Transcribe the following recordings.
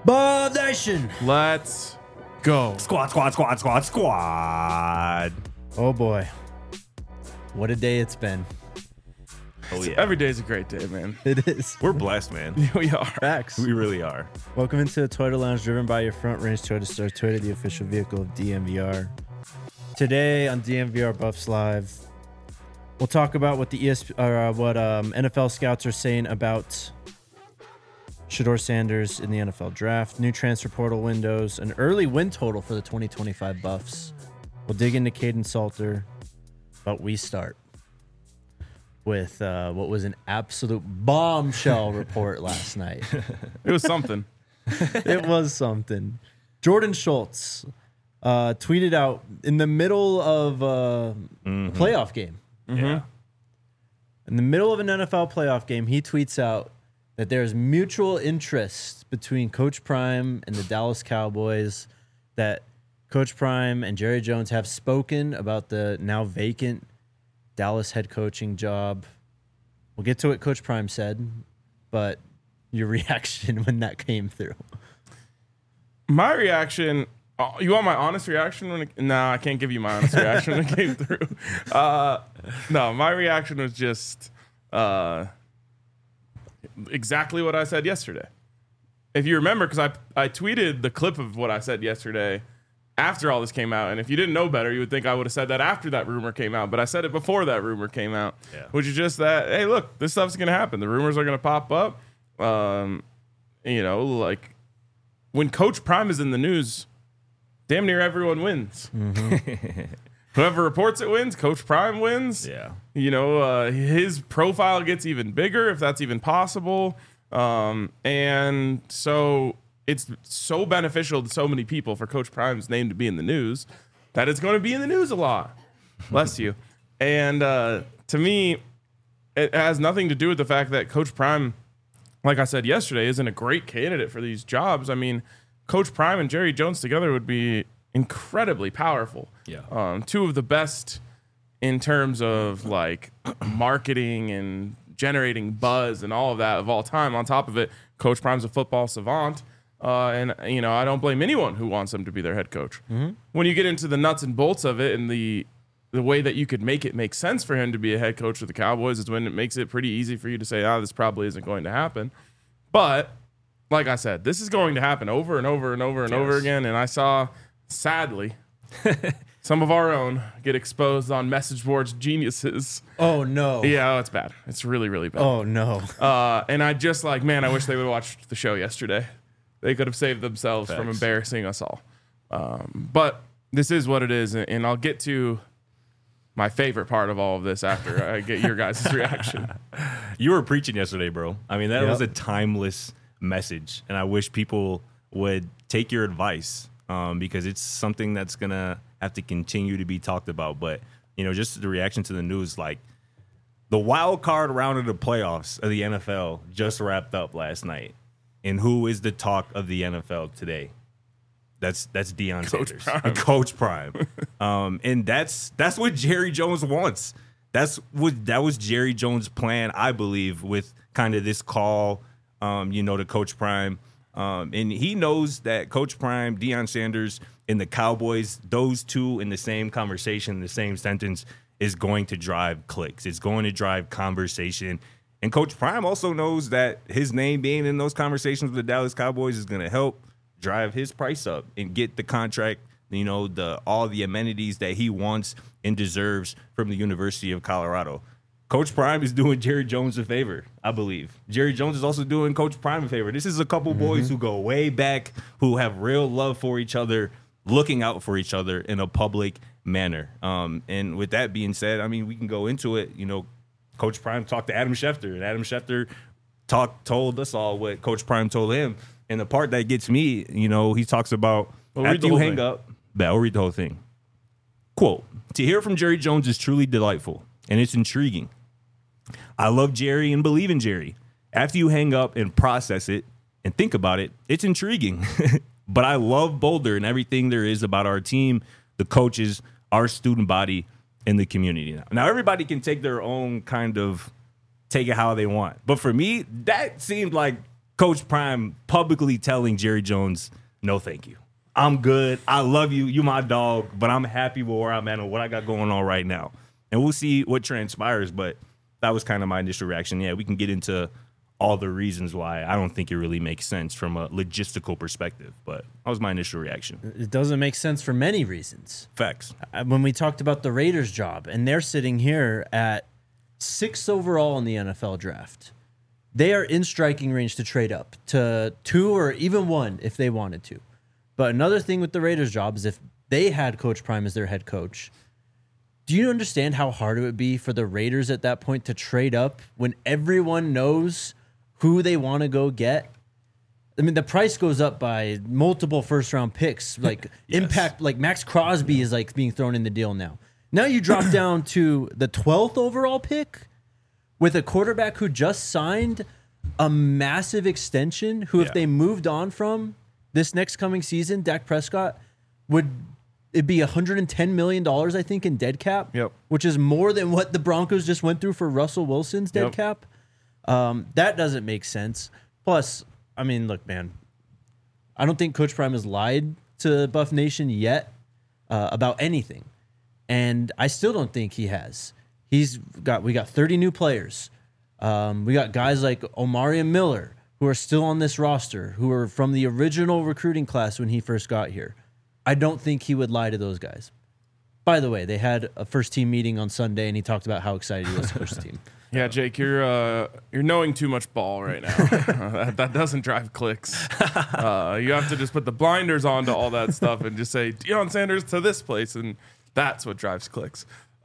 Bob Nation. Let's go. Squad. Oh boy, what a day it's been. Oh yeah. Every day is a great day, man. It is. We're blessed, man. We are. Facts. We really are. Welcome into the Toyota Lounge, driven by your Front Range Toyota Store. Toyota, the official vehicle of DMVR. Today on DMVR Buffs Live, we'll talk about what the NFL scouts are saying about Shedeur Sanders in the NFL draft, new transfer portal windows, an early win total for the 2025 Buffs. We'll dig into Caden Salter, but we start with what was an absolute bombshell report last night. It was something. It was something. Jordan Schultz tweeted out in the middle of a playoff game. Yeah. In the middle of an NFL playoff game, he tweets out that there's mutual interest between Coach Prime and the Dallas Cowboys, that Coach Prime and Jerry Jones have spoken about the now vacant Dallas head coaching job. We'll get to what Coach Prime said, but your reaction when that came through. My reaction, you want my honest reaction? No, I can't give you my honest reaction when it came through. No, my reaction was just exactly what I said yesterday. If you remember, because I tweeted the clip of what I said yesterday after all this came out, and if you didn't know better, you would think I would have said that after that rumor came out, but I said it before that rumor came out, which is just that, hey, look, this stuff's going to happen. The rumors are going to pop up. Like when Coach Prime is in the news, damn near everyone wins. Mm-hmm. Whoever reports it wins. Coach Prime wins. Yeah. His profile gets even bigger, if that's even possible. And so it's so beneficial to so many people for Coach Prime's name to be in the news that it's going to be in the news a lot. Bless you. And to me, it has nothing to do with the fact that Coach Prime, like I said yesterday, isn't a great candidate for these jobs. I mean, Coach Prime and Jerry Jones together would be incredibly powerful. Yeah. Two of the best in terms of like marketing and generating buzz and all of that of all time. On top of it, Coach Prime's a football savant. And I don't blame anyone who wants him to be their head coach. Mm-hmm. When you get into the nuts and bolts of it and the way that you could make it make sense for him to be a head coach of the Cowboys is when it makes it pretty easy for you to say, this probably isn't going to happen. But like I said, this is going to happen over and over and over and over again. And I saw, sadly, some of our own get exposed on message boards geniuses. Oh, no. Yeah, it's bad. It's really, really bad. Oh, no. And I just I wish they would have watched the show yesterday. They could have saved themselves from embarrassing us all. But this is what it is. And I'll get to my favorite part of all of this after I get your guys' reaction. You were preaching yesterday, bro. I mean, that was a timeless message. And I wish people would take your advice because it's something that's going to have to continue to be talked about. But, just the reaction to the news, like the wild card round of the playoffs of the NFL just wrapped up last night. And who is the talk of the NFL today? That's Deion Sanders, Coach Prime. And that's what Jerry Jones wants. That was Jerry Jones' plan, I believe, with kind of this call, to Coach Prime. And he knows that Coach Prime, Deion Sanders, and the Cowboys, those two in the same conversation, the same sentence, is going to drive clicks. It's going to drive conversation. And Coach Prime also knows that his name being in those conversations with the Dallas Cowboys is going to help drive his price up and get the contract, all the amenities that he wants and deserves from the University of Colorado. Coach Prime is doing Jerry Jones a favor, I believe. Jerry Jones is also doing Coach Prime a favor. This is a couple boys who go way back, who have real love for each other, looking out for each other in a public manner. And with that being said, I mean, we can go into it. Coach Prime talked to Adam Schefter, and Adam Schefter told us all what Coach Prime told him. And the part that gets me, he talks about after you hang up, I'll read the whole thing. Quote, "To hear from Jerry Jones is truly delightful, and it's intriguing. I love Jerry and believe in Jerry. After you hang up and process it and think about it, it's intriguing. But I love Boulder and everything there is about our team, the coaches, our student body, and the community. Now, everybody can take their own kind of take it how they want. But for me, that seemed like Coach Prime publicly telling Jerry Jones, no, thank you. I'm good. I love you. You my dog, but I'm happy with where I'm at and what I got going on right now. And we'll see what transpires, but that was kind of my initial reaction. Yeah, we can get into all the reasons why I don't think it really makes sense from a logistical perspective, but that was my initial reaction. It doesn't make sense for many reasons. Facts. When we talked about the Raiders job, and they're sitting here at 6th overall in the NFL draft, they are in striking range to trade up to 2 or even 1 if they wanted to. But another thing with the Raiders job is if they had Coach Prime as their head coach, do you understand how hard it would be for the Raiders at that point to trade up when everyone knows who they want to go get? I mean, the price goes up by multiple first-round picks. Like Yes. impact, like Max Crosby is like being thrown in the deal now. Now you drop down to the 12th overall pick with a quarterback who just signed a massive extension, who if Yeah. they moved on from this next coming season, Dak Prescott, would it'd be $110 million, I think, in dead cap, Yep. which is more than what the Broncos just went through for Russell Wilson's dead Yep. cap. That doesn't make sense. Plus, I mean, look, man, I don't think Coach Prime has lied to Buff Nation yet about anything. And I still don't think he has. We got 30 new players. We got guys like Omari and Miller who are still on this roster, who are from the original recruiting class when he first got here. I don't think he would lie to those guys. By the way, they had a first team meeting on Sunday, and he talked about how excited he was to coach the team. Yeah, Jake, you're knowing too much ball right now. That doesn't drive clicks. You have to just put the blinders on to all that stuff and just say Deion Sanders to this place, and that's what drives clicks.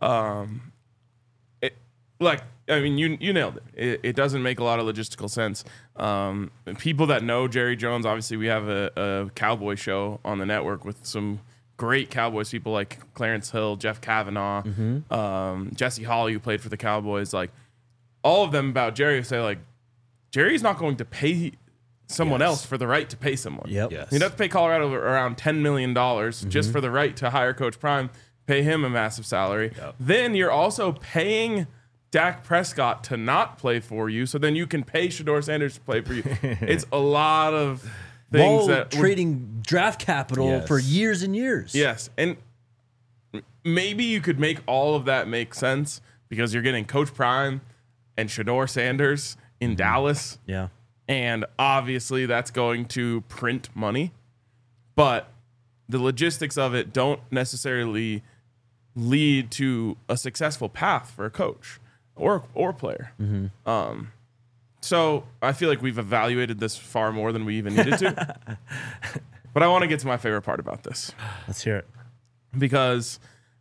You nailed it. It doesn't make a lot of logistical sense. People that know Jerry Jones, obviously, we have a Cowboy show on the network with some great Cowboys people like Clarence Hill, Jeff Kavanaugh, Jesse Holley, who played for the Cowboys. Like, all of them about Jerry say, like, Jerry's not going to pay someone else for the right to pay someone. Yep. Yes. He'd have to pay Colorado around $10 million just for the right to hire Coach Prime, pay him a massive salary. Yep. Then you're also paying Dak Prescott to not play for you, so then you can pay Shedeur Sanders to play for you. It's a lot of things While that trading draft capital Yes. for years and years. Yes, and maybe you could make all of that make sense because you're getting Coach Prime and Shedeur Sanders in Dallas, Yeah. and obviously that's going to print money, but the logistics of it don't necessarily lead to a successful path for a coach or player. So I feel like we've evaluated this far more than we even needed to. But I want to get to my favorite part about this. Let's hear it. Because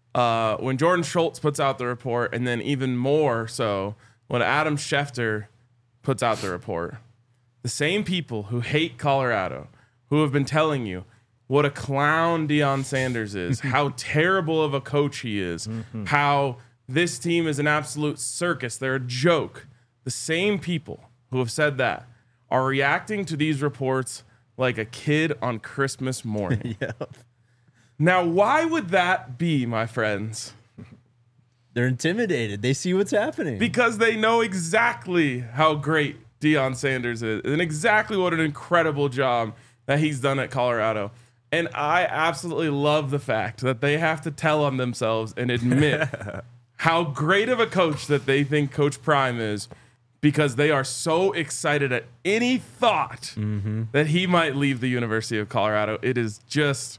when Jordan Schultz puts out the report, and then even more so when Adam Schefter puts out the report, the same people who hate Colorado, who have been telling you what a clown Deion Sanders is, how terrible of a coach he is, how this team is an absolute circus, they're a joke. The same people who have said that are reacting to these reports like a kid on Christmas morning. Yep. Now, why would that be, my friends? They're intimidated. They see what's happening. Because they know exactly how great Deion Sanders is and exactly what an incredible job that he's done at Colorado. And I absolutely love the fact that they have to tell on themselves and admit how great of a coach that they think Coach Prime is, because they are so excited at any thought that he might leave the University of Colorado. It is just,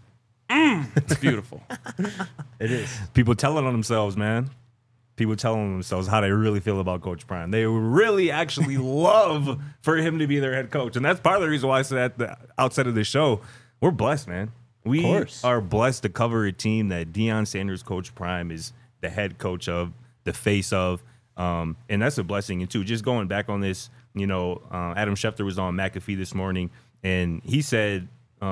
it's beautiful. It is. People telling on themselves, man. People telling themselves how they really feel about Coach Prime. They really actually love for him to be their head coach. And that's part of the reason why I said at the outset of the show, we're blessed, man. We course. are blessed to cover a team that Deion Sanders, Coach Prime, is the head coach of, the face of. And that's a blessing. And too, just going back on this, Adam Schefter was on McAfee this morning, and he said,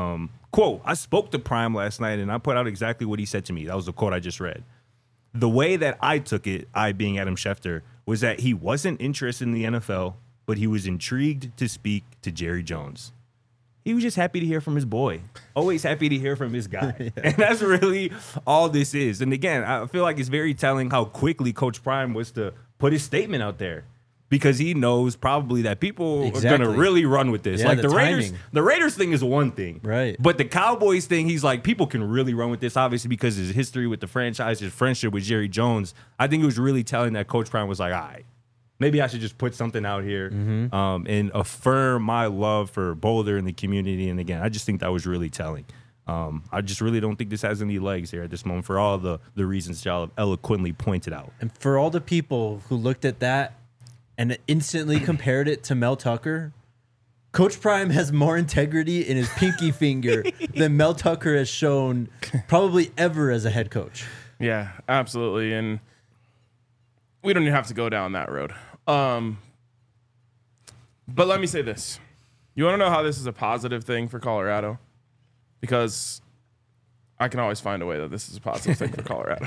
quote, I spoke to Prime last night, and I put out exactly what he said to me. That was the quote I just read. The way that I took it, I being Adam Schefter, was that he wasn't interested in the NFL, but he was intrigued to speak to Jerry Jones. He was just happy to hear from his boy. Always happy to hear from his guy. And that's really all this is. And again, I feel like it's very telling how quickly Coach Prime was to put his statement out there. because he knows probably that people are Exactly. going to really run with this. Yeah, Like the the timing. Raiders thing is one thing. Right. But the Cowboys thing, he's like, people can really run with this, obviously, because his history with the franchise, his friendship with Jerry Jones. I think it was really telling that Coach Prime was like, all right, maybe I should just put something out here and affirm my love for Boulder and the community. And again, I just think that was really telling. I just really don't think this has any legs here at this moment for all the reasons y'all have eloquently pointed out. And for all the people who looked at that and instantly compared it to Mel Tucker, Coach Prime has more integrity in his pinky finger than Mel Tucker has shown probably ever as a head coach. Yeah, absolutely. And we don't even have to go down that road. But let me say this. You want to know how this is a positive thing for Colorado? Because I can always find a way that this is a positive thing for Colorado.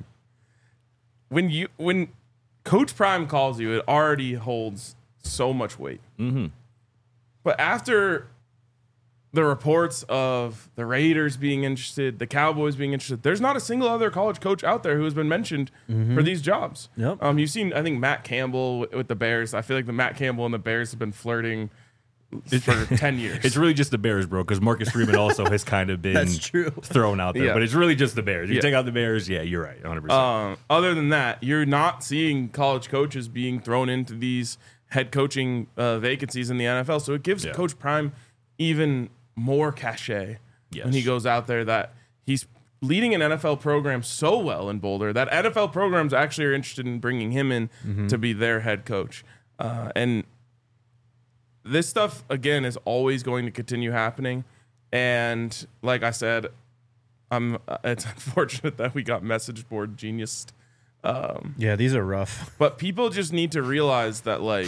When Coach Prime calls you, it already holds so much weight. Mm-hmm. But after the reports of the Raiders being interested, the Cowboys being interested, there's not a single other college coach out there who has been mentioned for these jobs. Yep. You've seen, I think, Matt Campbell with the Bears. I feel like the Matt Campbell and the Bears have been flirting for 10 years. It's really just the Bears, bro, because Marcus Freeman also has kind of been That's true. thrown out there. Yeah. But it's really just the Bears. You Yeah. take out the Bears, yeah, you're right, 100%. Other than that, you're not seeing college coaches being thrown into these head coaching vacancies in the NFL. So it gives Yeah. Coach Prime even more cachet Yes. when he goes out there that he's leading an NFL program so well in Boulder that NFL programs actually are interested in bringing him in to be their head coach. And this stuff, again, is always going to continue happening. And like I said, it's unfortunate that we got message board genius. Yeah, these are rough. But people just need to realize that, like,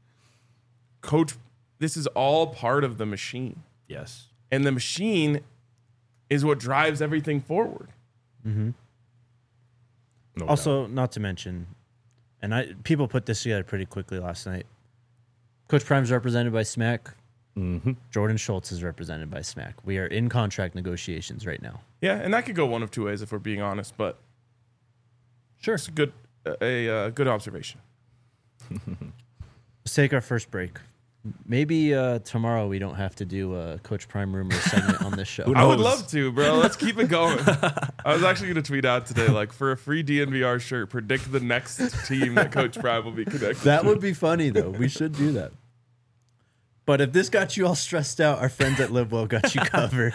Coach, this is all part of the machine. Yes. And the machine is what drives everything forward. No Also, not to mention, and people put this together pretty quickly last night. Coach Prime's represented by SMAC. Mm-hmm. Jordan Schultz is represented by SMAC. We are in contract negotiations right now. Yeah, and that could go one of two ways if we're being honest, but Sure. it's a good observation. Let's take our first break. Maybe tomorrow we don't have to do a Coach Prime rumor segment on this show. Who I would knows? love to, bro. Let's keep it going. I was actually going to tweet out today, like, for a free DNVR shirt, predict the next team that Coach Prime will be connected That to. would be funny, though. We should do that. But if this got you all stressed out, our friends at Live Well got you covered.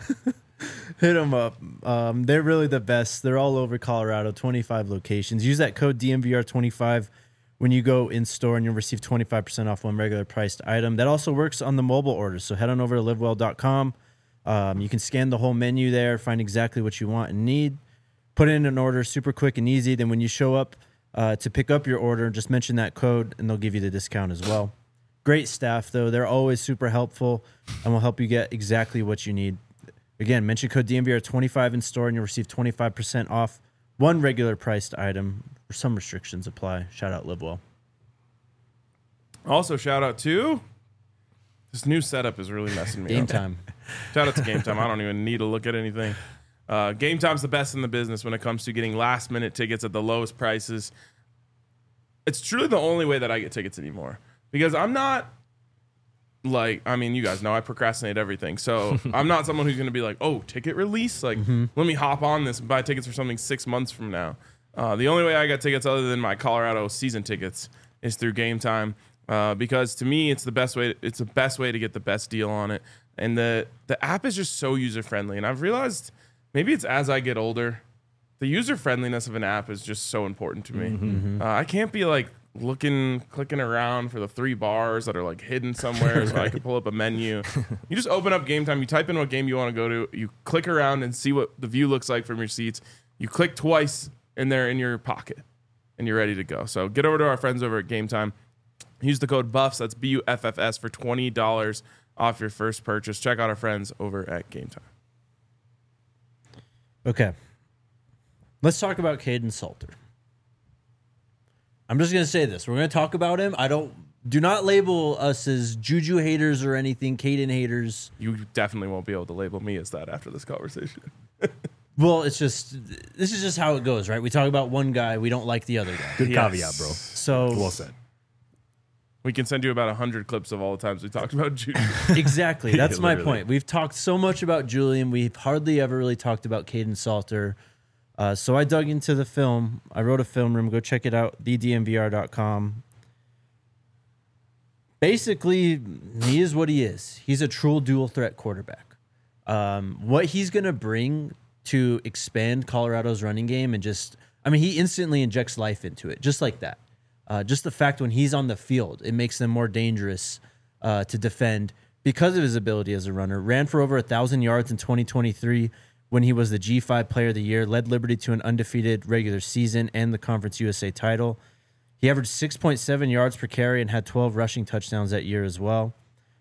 Hit them up. They're really the best. They're all over Colorado, 25 locations. Use that code DNVR25 when you go in store, and you'll receive 25% off one regular priced item. That also works on the mobile orders. So head on over to livewell.com. You can scan the whole menu there, find exactly what you want and need. Put in an order super quick and easy. Then when you show up to pick up your order, just mention that code, and they'll give you the discount as well. Great staff, though. They're always super helpful and will help you get exactly what you need. Again, mention code DNVR25 in store, and you'll receive 25% off one regular priced item. Some restrictions apply. Shout out Live Well. Also, shout out to this new setup is really messing me Game up. time. Shout out to Game Time. I don't even need to look at anything. Game Time's the best in the business when it comes to getting last minute tickets at the lowest prices. It's truly the only way that I get tickets anymore, because I'm not like, I mean, you guys know I procrastinate everything. So I'm not someone who's going to be like, oh, ticket release. Like, let me hop on this and buy tickets for something 6 months from now. The only way I got tickets other than my Colorado season tickets is through Game Time. Because to me, it's the best way. It's the best way to get the best deal on it, and the app is just so user friendly. And I've realized maybe it's as I get older, the user friendliness of an app is just so important to me. I can't be like clicking around for the 3 bars that are like hidden somewhere so I can pull up a menu. You just open up Game Time, you type in what game you want to go to, you click around and see what the view looks like from your seats. You click twice, and they're in your pocket, and you're ready to go. So get over to our friends over at Game Time. Use the code BUFFS, that's BUFFS, for $20 off your first purchase. Check out our friends over at Game Time. Okay. Let's talk about Caden Salter. I'm just going to say this. We're going to talk about him. Do not label us as Juju haters or anything, Caden haters. You definitely won't be able to label me as that after this conversation. Well, this is just how it goes, right? We talk about one guy, we don't like the other guy. Good Yes. caveat, bro. So Well said. We can send you about 100 clips of all the times we talked about Juju. Exactly. That's my literally. point. We've talked so much about Julian. We've hardly ever really talked about Caden Salter. So I dug into the film. I wrote a film room. Go check it out, thedmvr.com. Basically, he is what he is. He's a true dual threat quarterback. What he's going to bring to expand Colorado's running game and he instantly injects life into it, just like that. Just the fact when he's on the field, it makes them more dangerous to defend because of his ability as a runner. Ran for over 1,000 yards in 2023 when he was the G5 Player of the Year, led Liberty to an undefeated regular season and the Conference USA title. He averaged 6.7 yards per carry and had 12 rushing touchdowns that year as well.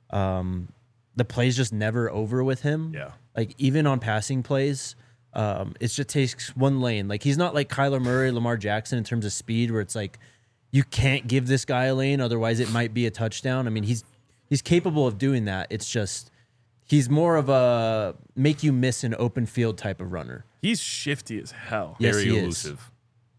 The play's just never over with him. Yeah. Like, even on passing plays, it just takes one lane. Like, he's not like Kyler Murray, Lamar Jackson in terms of speed, where it's like, you can't give this guy a lane, otherwise it might be a touchdown. I mean, he's capable of doing that. It's just he's more of a make you miss an open field type of runner. He's shifty as hell. Yes, Very he is. elusive.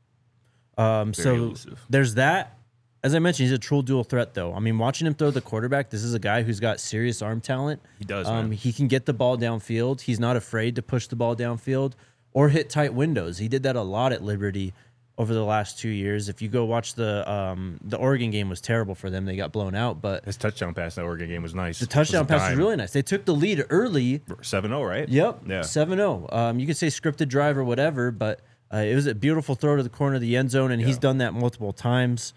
So elusive. there's that. As I mentioned, he's a true dual threat, though. I mean, watching him throw the quarterback, this is a guy who's got serious arm talent. He does, man. He can get the ball downfield. He's not afraid to push the ball downfield or hit tight windows. He did that a lot at Liberty over the last 2 years. If you go watch the Oregon game was terrible for them. They got blown out, but His touchdown pass in that Oregon game was nice. the touchdown pass was really nice. They took the lead early. 7-0, right? Yep. Yeah. 7-0. You could say scripted drive or whatever, but it was a beautiful throw to the corner of the end zone, and he's done that multiple times.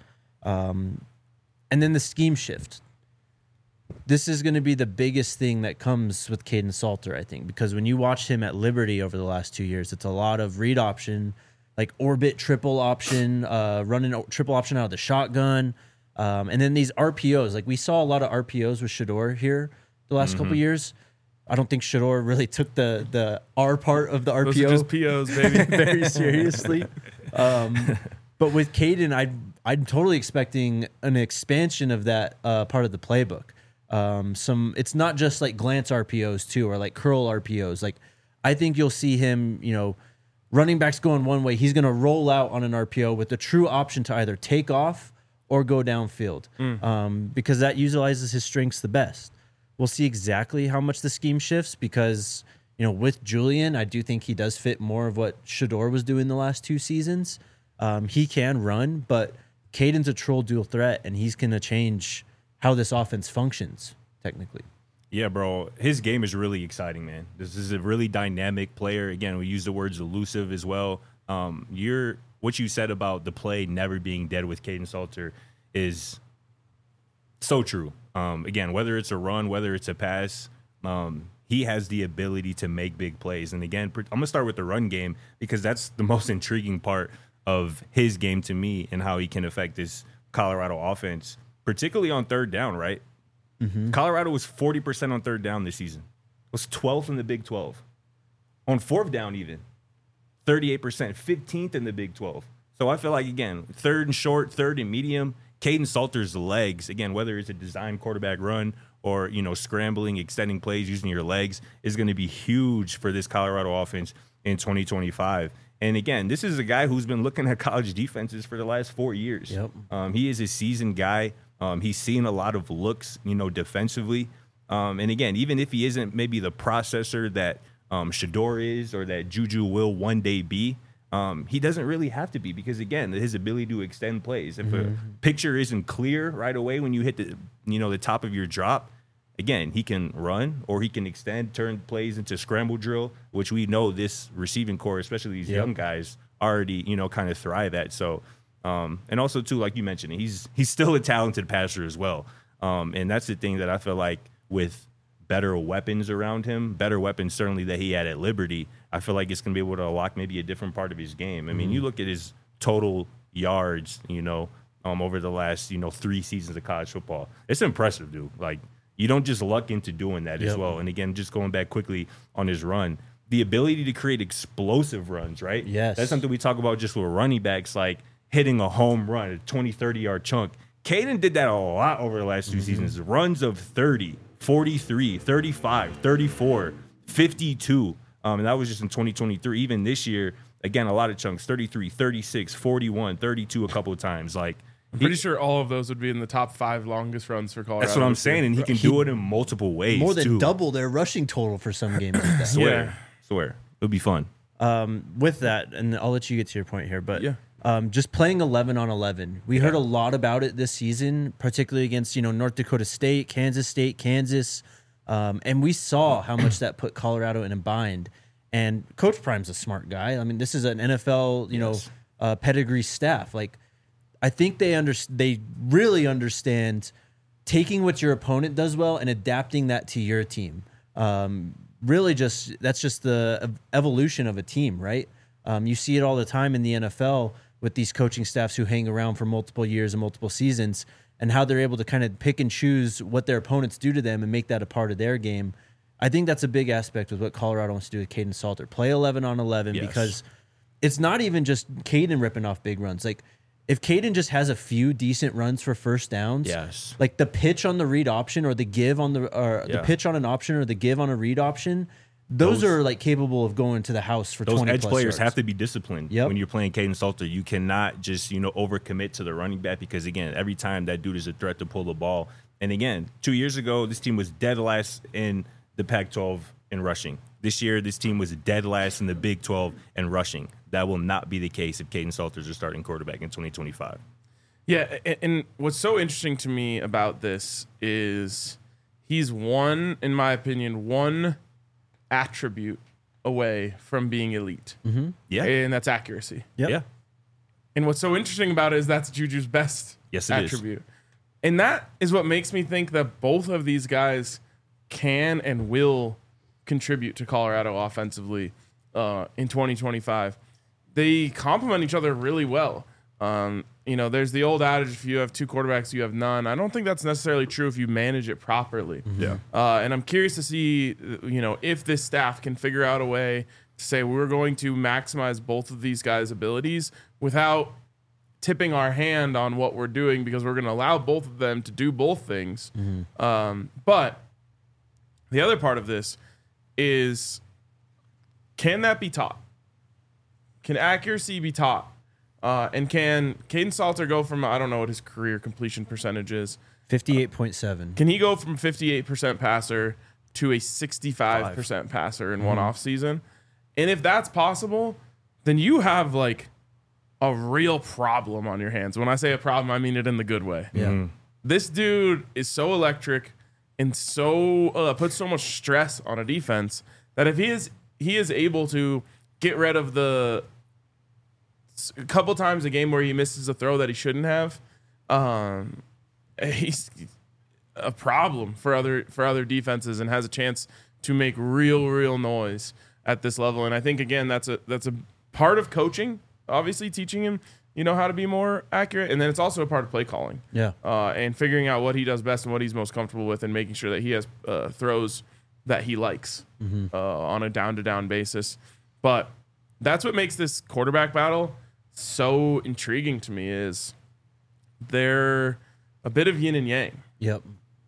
And then the scheme shift. This is going to be the biggest thing that comes with Caden Salter, I think, because when you watch him at Liberty over the last 2 years, it's a lot of read option, like orbit triple option, running triple option out of the shotgun. And then these RPOs, like we saw a lot of RPOs with Shador here the last couple years. I don't think Shador really took the R part of the Those RPO are just POs, baby. very seriously. But with Caden, I'm totally expecting an expansion of that part of the playbook. It's not just like glance RPOs too, or like curl RPOs. Like I think you'll see him, running backs going one way. He's going to roll out on an RPO with the true option to either take off or go downfield, because that utilizes his strengths the best. We'll see exactly how much the scheme shifts because, with Julian, I do think he does fit more of what Shador was doing the last 2 seasons. He can run, but Caden's a troll dual threat, and he's going to change how this offense functions, technically. Yeah, bro. His game is really exciting, man. This is a really dynamic player. Again, we use the words elusive as well. What you said about the play never being dead with Caden Salter is so true. Again, whether it's a run, whether it's a pass, he has the ability to make big plays. And again, I'm going to start with the run game because that's the most intriguing part of his game to me and how he can affect this Colorado offense, particularly on third down, right? Colorado was 40% on third down this season. Was 12th in the Big 12. On fourth down even, 38%, 15th in the Big 12. So I feel like, again, third and short, third and medium, Caden Salter's legs, again, whether it's a design quarterback run or, scrambling, extending plays, using your legs, is going to be huge for this Colorado offense in 2025. And again, this is a guy who's been looking at college defenses for the last 4 years. Yep. He is a seasoned guy. He's seen a lot of looks, defensively. And again, even if he isn't maybe the processor that Shador is or that Juju will one day be, he doesn't really have to be because, again, his ability to extend plays. If a picture isn't clear right away when you hit the top of your drop, again, he can run or he can extend, turn plays into scramble drill, which we know this receiving core, especially these young guys, already, kind of thrive at. So, and also, too, like you mentioned, he's still a talented passer as well. And that's the thing that I feel like with better weapons around him, better weapons certainly that he had at Liberty, I feel like it's going to be able to unlock maybe a different part of his game. I mean, you look at his total yards, over the last, 3 seasons of college football. It's impressive, dude. Like, you don't just luck into doing that as well. And again, just going back quickly on his run, the ability to create explosive runs, right? Yes. That's something we talk about just with running backs, like hitting a home run, a 20, 30-yard chunk. Caden did that a lot over the last 2 seasons. Runs of 30, 43, 35, 34, 52. And that was just in 2023. Even this year, again, a lot of chunks, 33, 36, 41, 32 a couple of times. Like, I'm pretty sure all of those would be in the top 5 longest runs for Colorado. That's what I'm saying, and he can do it in multiple ways. More than too. double their rushing total for some games. Like that. Swear. It'll be fun. With that, and I'll let you get to your point here, but Yeah. Just playing 11 on 11. We heard a lot about it this season, particularly against North Dakota State, Kansas, and we saw how much that put Colorado in a bind. And Coach Prime's a smart guy. I mean, this is an NFL pedigree staff. Like, I think they really understand taking what your opponent does well and adapting that to your team. Really, that's just the evolution of a team, right? You see it all the time in the NFL with these coaching staffs who hang around for multiple years and multiple seasons, and how they're able to kind of pick and choose what their opponents do to them and make that a part of their game. I think that's a big aspect with what Colorado wants to do with Kaidon Salter. Play 11 on 11 because it's not even just Kaidon ripping off big runs. Like, if Kaidon just has a few decent runs for first downs, like the pitch on the read option or the give on the pitch on an option or the give on a read option, those are like capable of going to the house for 20 plus Those edge players yards. have to be disciplined when you're playing Kaidon Salter. You cannot just overcommit to the running back, because again, every time that dude is a threat to pull the ball. And again, 2 years ago, this team was dead last in the Pac-12 in rushing. This year, this team was dead last in the Big 12 in rushing. That will not be the case if Kaidon Salter's your starting quarterback in 2025. Yeah, and what's so interesting to me about this is he's in my opinion, one attribute away from being elite. Mm-hmm. Yeah. And that's accuracy. Yep. Yeah. And what's so interesting about it is that's Juju's best attribute. And that is what makes me think that both of these guys can and will contribute to Colorado offensively in 2025. They complement each other really well. There's the old adage, if you have 2 quarterbacks, you have none. I don't think that's necessarily true if you manage it properly. Mm-hmm. Yeah. And I'm curious to see, if this staff can figure out a way to say we're going to maximize both of these guys' abilities without tipping our hand on what we're doing, because we're going to allow both of them to do both things. Mm-hmm. But the other part of this is, can that be taught? Can accuracy be taught? And can Kaidon Salter go from, I don't know what his career completion percentage is. 58.7. Can he go from 58% passer to a 65% passer in one off season? And if that's possible, then you have like a real problem on your hands. When I say a problem, I mean it in the good way. Yeah. Mm-hmm. This dude is so electric and so puts so much stress on a defense that if he is able to get rid of a couple times a game where he misses a throw that he shouldn't have, he's a problem for other defenses and has a chance to make real noise at this level. And I think, again, that's a part of coaching, obviously teaching him how to be more accurate, and then it's also a part of play calling. Yeah. And figuring out what he does best and what he's most comfortable with, and making sure that he has throws that he likes on a down-to-down basis. But that's what makes this quarterback battle so intriguing to me, is they're a bit of yin and yang. Yep.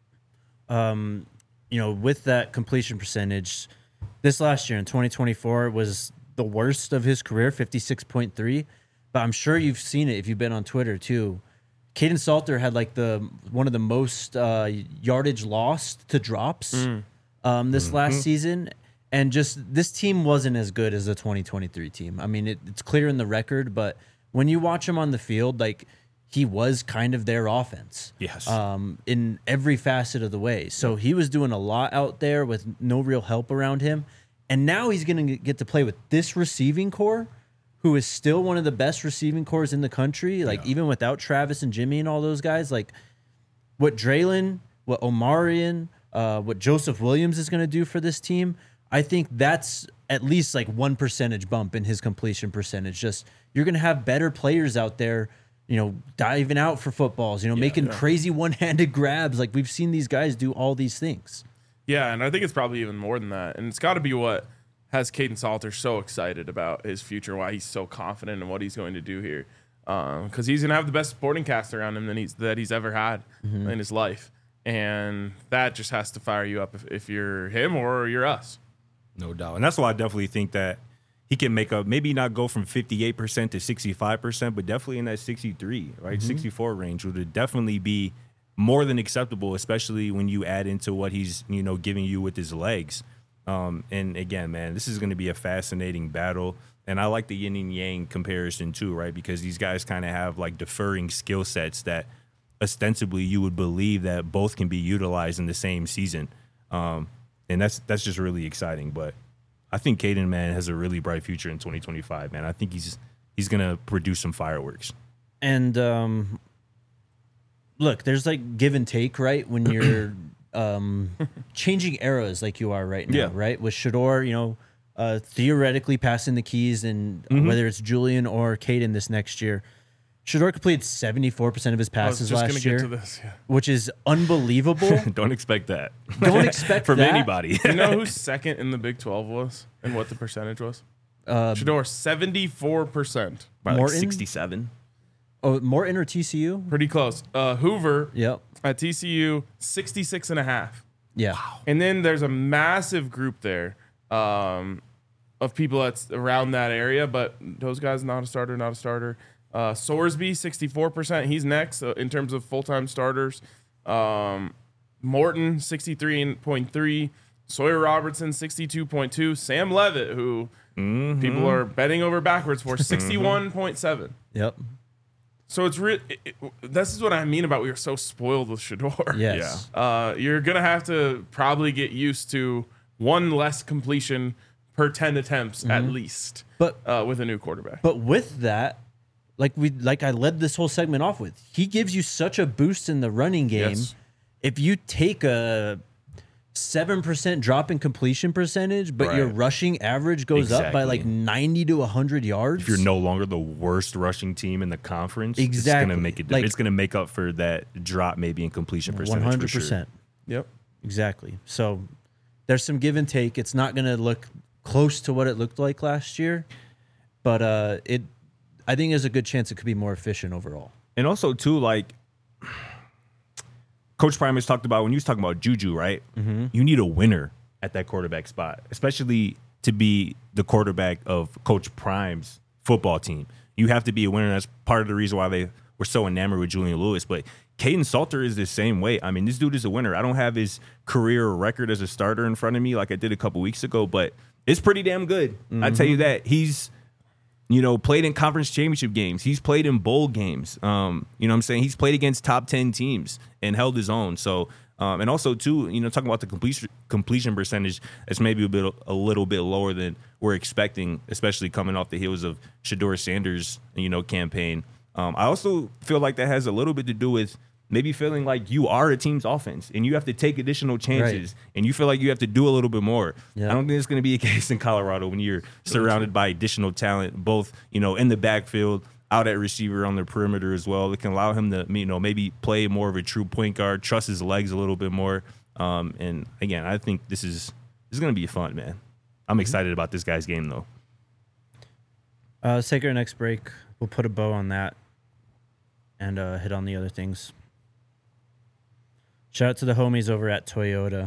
With that completion percentage, this last year in 2024 was the worst of his career, 56.3. But I'm sure you've seen it if you've been on Twitter too. Kaidon Salter had like one of the most yardage lost to drops this last season. And just this team wasn't as good as the 2023 team. I mean, it's clear in the record, but when you watch him on the field, like, he was kind of their offense. Yes. In every facet of the way. So he was doing a lot out there with no real help around him. And now he's going to get to play with this receiving core, who is still one of the best receiving cores in the country. Like, even without Travis and Jimmy and all those guys, like, what Draylon, what Omarion, what Joseph Williams is going to do for this team, I think that's at least like 1 percentage bump in his completion percentage. Just, you're going to have better players out there, diving out for footballs, making crazy one-handed grabs. Like, we've seen these guys do all these things. Yeah, and I think it's probably even more than that. And it's got to be what has Kaidon Salter so excited about his future, why he's so confident in what he's going to do here. Because he's going to have the best supporting cast around him that he's ever had in his life. And that just has to fire you up if you're him or you're us. No doubt. And that's why I definitely think that he can make up, maybe not go from 58% to 65%, but definitely in that 63, right, 64 range would definitely be more than acceptable, especially when you add into what he's, giving you with his legs. And again, man, this is going to be a fascinating battle. And I like the yin and yang comparison too, right? Because these guys kind of have like differing skill sets that ostensibly you would believe that both can be utilized in the same season. And that's just really exciting. But I think Caden, man, has a really bright future in 2025, man. I think he's going to produce some fireworks. And look, there's like give and take, right? When you're changing eras like you are right now, right? With Shedeur, theoretically passing the keys, and whether it's Julian or Caden this next year. Shedeur completed 74% of his passes last year, which is unbelievable. Don't expect that. Don't expect from that. anybody. You know who second in the Big 12 was and what the percentage was? Shedeur, 74%. By like Morton? 67. Oh, Morton or TCU? Pretty close. Hoover Yep. at TCU, 66.5. Yeah. And then there's a massive group there of people that's around that area, but those guys not a starter. Sorsby, 64%. He's next in terms of full-time starters. Morton, 63.3. Sawyer Robertson, 62.2. Sam Levitt, who people are betting over backwards for, 61.7. Yep. So it's this is what I mean about we are so spoiled with Shedeur. Yes. Yeah. You're going to have to probably get used to one less completion per 10 attempts at least, But with a new quarterback. But with that, like I led this whole segment off with, he gives you such a boost in the running game. Yes. If you take a 7% drop in completion percentage, but your rushing average goes up by like 90 to 100 yards. If you're no longer the worst rushing team in the conference, Exactly. it's going to make it. It's going to make up for that drop maybe in completion percentage. 100%. For sure. Yep. Exactly. So there's some give and take. It's not going to look close to what it looked like last year, but I think there's a good chance it could be more efficient overall. And also, too, like Coach Prime has talked about when he was talking about Juju, right? You need a winner at that quarterback spot, especially to be the quarterback of Coach Prime's football team. You have to be a winner. That's part of the reason why they were so enamored with Julian Lewis. But Caden Salter is the same way. I mean, this dude is a winner. I don't have his career record as a starter in front of me like I did a couple weeks ago, but it's pretty damn good. I tell you that. He's played in conference championship games. He's played in bowl games. You know what I'm saying? He's played against top 10 teams and held his own. So, and also, too, talking about the completion percentage, it's maybe a little bit lower than we're expecting, especially coming off the heels of Shedeur Sanders', campaign. I also feel like that has a little bit to do with maybe feeling like you are a team's offense and you have to take additional chances and you feel like you have to do a little bit more. Yeah. I don't think it's going to be a case in Colorado when you're surrounded by additional talent, both, in the backfield, out at receiver on the perimeter as well. It can allow him to, maybe play more of a true point guard, trust his legs a little bit more. And again, I think this is going to be fun, man. I'm excited about this guy's game, though. Let's take our next break. We'll put a bow on that and hit on the other things. Shout out to the homies over at Toyota.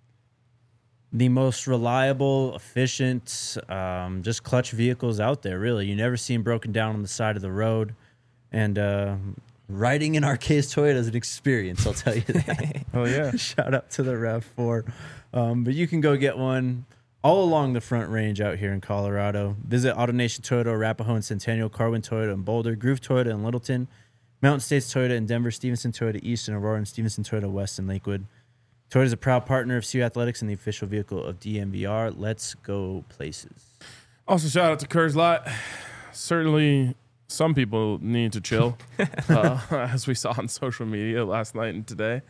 The most reliable, efficient, just clutch vehicles out there, really. You never see them broken down on the side of the road. And riding in Arceus Toyota is an experience, I'll tell you that. Oh, yeah. Shout out to the RAV4. But you can go get one all along the Front Range out here in Colorado. Visit AutoNation Toyota, Arapahoe and Centennial, Carwin Toyota in Boulder, Groove Toyota in Littleton, Mountain States Toyota in Denver, Stevenson Toyota East in Aurora, and Stevenson Toyota West in Lakewood. Toyota is a proud partner of CU Athletics and the official vehicle of DMVR. Let's go places. Also, shout out to Coors Light. Certainly, some people need to chill, as we saw on social media last night and today.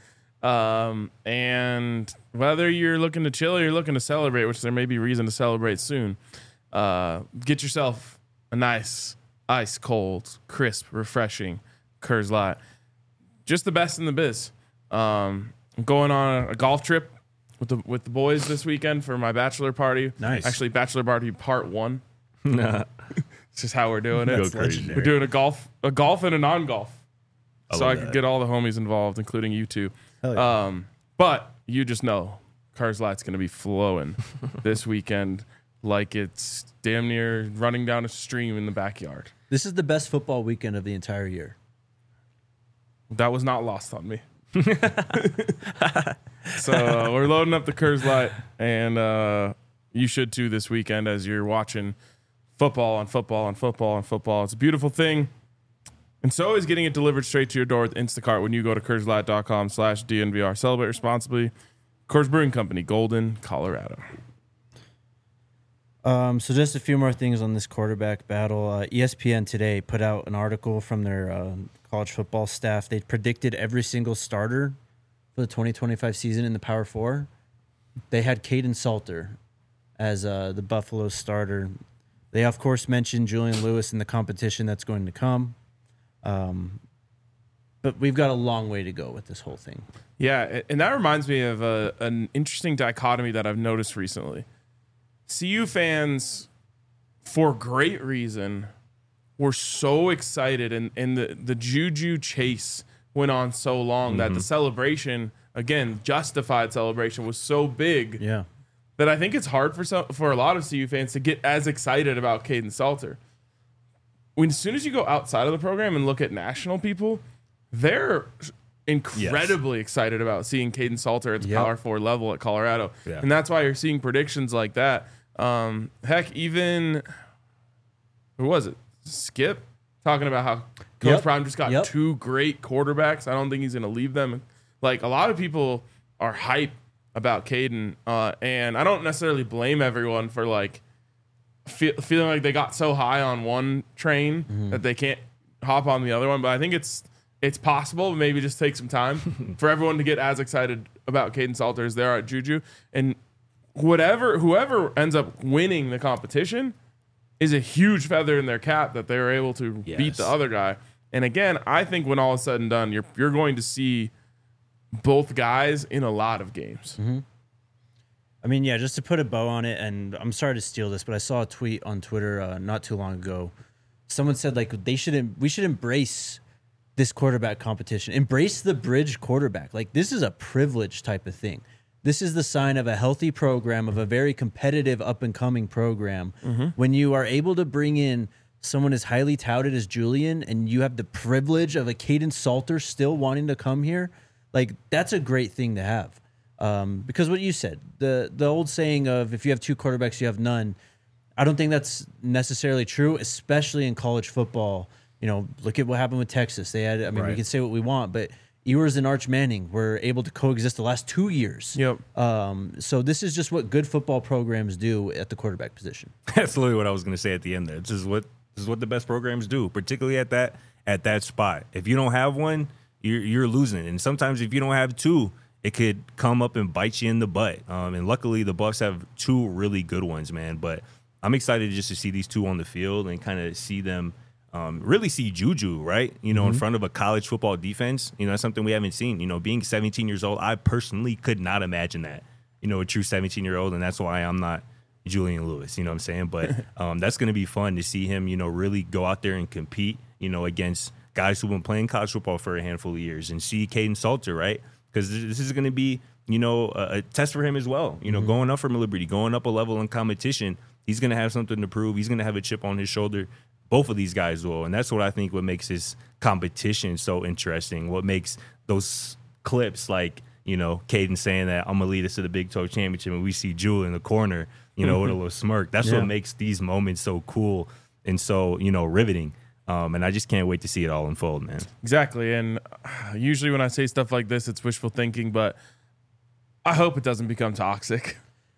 And whether you're looking to chill or you're looking to celebrate, which there may be reason to celebrate soon, get yourself a nice, ice cold, crisp, refreshing Coors Light. Just the best in the biz. I'm going on a golf trip with the boys this weekend for my bachelor party. Nice. Actually, bachelor party part 1. It's just how we're doing it. We're doing a golf and a non-golf. So I could get all the homies involved, including you two. Yeah. But you just know Coors Light's going to be flowing this weekend like it's damn near running down a stream in the backyard. This is the best football weekend of the entire year. That was not lost on me. So we're loading up the Coors Light, and you should too this weekend as you're watching football on football on football on football. It's a beautiful thing. And so is getting it delivered straight to your door with Instacart when you go to CoorsLight.com/DNVR. Celebrate responsibly. Coors Brewing Company, Golden, Colorado. So just a few more things on this quarterback battle. ESPN today put out an article from their college football staff. They predicted every single starter for the 2025 season in the Power Four. They had Caden Salter as the Buffalo starter. They, of course, mentioned Julian Lewis in the competition that's going to come. But we've got a long way to go with this whole thing. Yeah, and that reminds me of an interesting dichotomy that I've noticed recently. CU fans, for great reason, were so excited, and the Juju chase went on so long that the celebration, again, justified celebration, was so big that I think it's hard for a lot of CU fans to get as excited about Caden Salter. As soon as you go outside of the program and look at national people, they're incredibly excited about seeing Caden Salter at the Power 4 level at Colorado. Yeah. And that's why you're seeing predictions like that. Heck, even, who was it? Skip talking about how Coach Prime just got two great quarterbacks. I don't think he's going to leave them. Like, a lot of people are hype about Caden, and I don't necessarily blame everyone for like feeling like they got so high on one train that they can't hop on the other one. But I think it's possible. Maybe just take some time for everyone to get as excited about Caden Salter as they are at Juju. And whoever ends up winning the competition is a huge feather in their cap that they were able to beat the other guy. And again, I think when all is said and done, you're going to see both guys in a lot of games. Mm-hmm. I mean, yeah, just to put a bow on it, and I'm sorry to steal this, but I saw a tweet on Twitter not too long ago. Someone said like we should embrace this quarterback competition. Embrace the bridge quarterback. Like, this is a privilege type of thing. This is the sign of a healthy program, of a very competitive up-and-coming program. When you are able to bring in someone as highly touted as Julian, and you have the privilege of a Caden Salter still wanting to come here, like, that's a great thing to have. Because what you said, the old saying of if you have two quarterbacks, you have none, I don't think that's necessarily true, especially in college football. You know, look at what happened with Texas. They had, we can say what we want, but Ewers and Arch Manning were able to coexist the last 2 years. Yep. So this is just what good football programs do at the quarterback position. That's literally what I was going to say at the end there. This is what the best programs do, particularly at that spot. If you don't have one, you're losing. And sometimes if you don't have two, it could come up and bite you in the butt. And luckily the Bucs have two really good ones, man. But I'm excited just to see these two on the field and kind of see them really see Juju, right? You know, in front of a college football defense. You know, that's something we haven't seen. You know, being 17 years old, I personally could not imagine that. You know, a true 17-year-old, and that's why I'm not Julian Lewis. You know what I'm saying? But that's going to be fun to see him, you know, really go out there and compete, you know, against guys who've been playing college football for a handful of years, and see Caden Salter, right? Because this is going to be, you know, a test for him as well. You know, going up from Liberty, going up a level in competition, he's going to have something to prove. He's going to have a chip on his shoulder. Both of these guys will, and that's what I think what makes this competition so interesting. What makes those clips like, you know, Caden saying that I'm going to lead us to the Big 12 championship, and we see Jewel in the corner, you know, with a little smirk. That's what makes these moments so cool and so, you know, riveting. And I just can't wait to see it all unfold, man. Exactly. And usually when I say stuff like this, it's wishful thinking, but I hope it doesn't become toxic.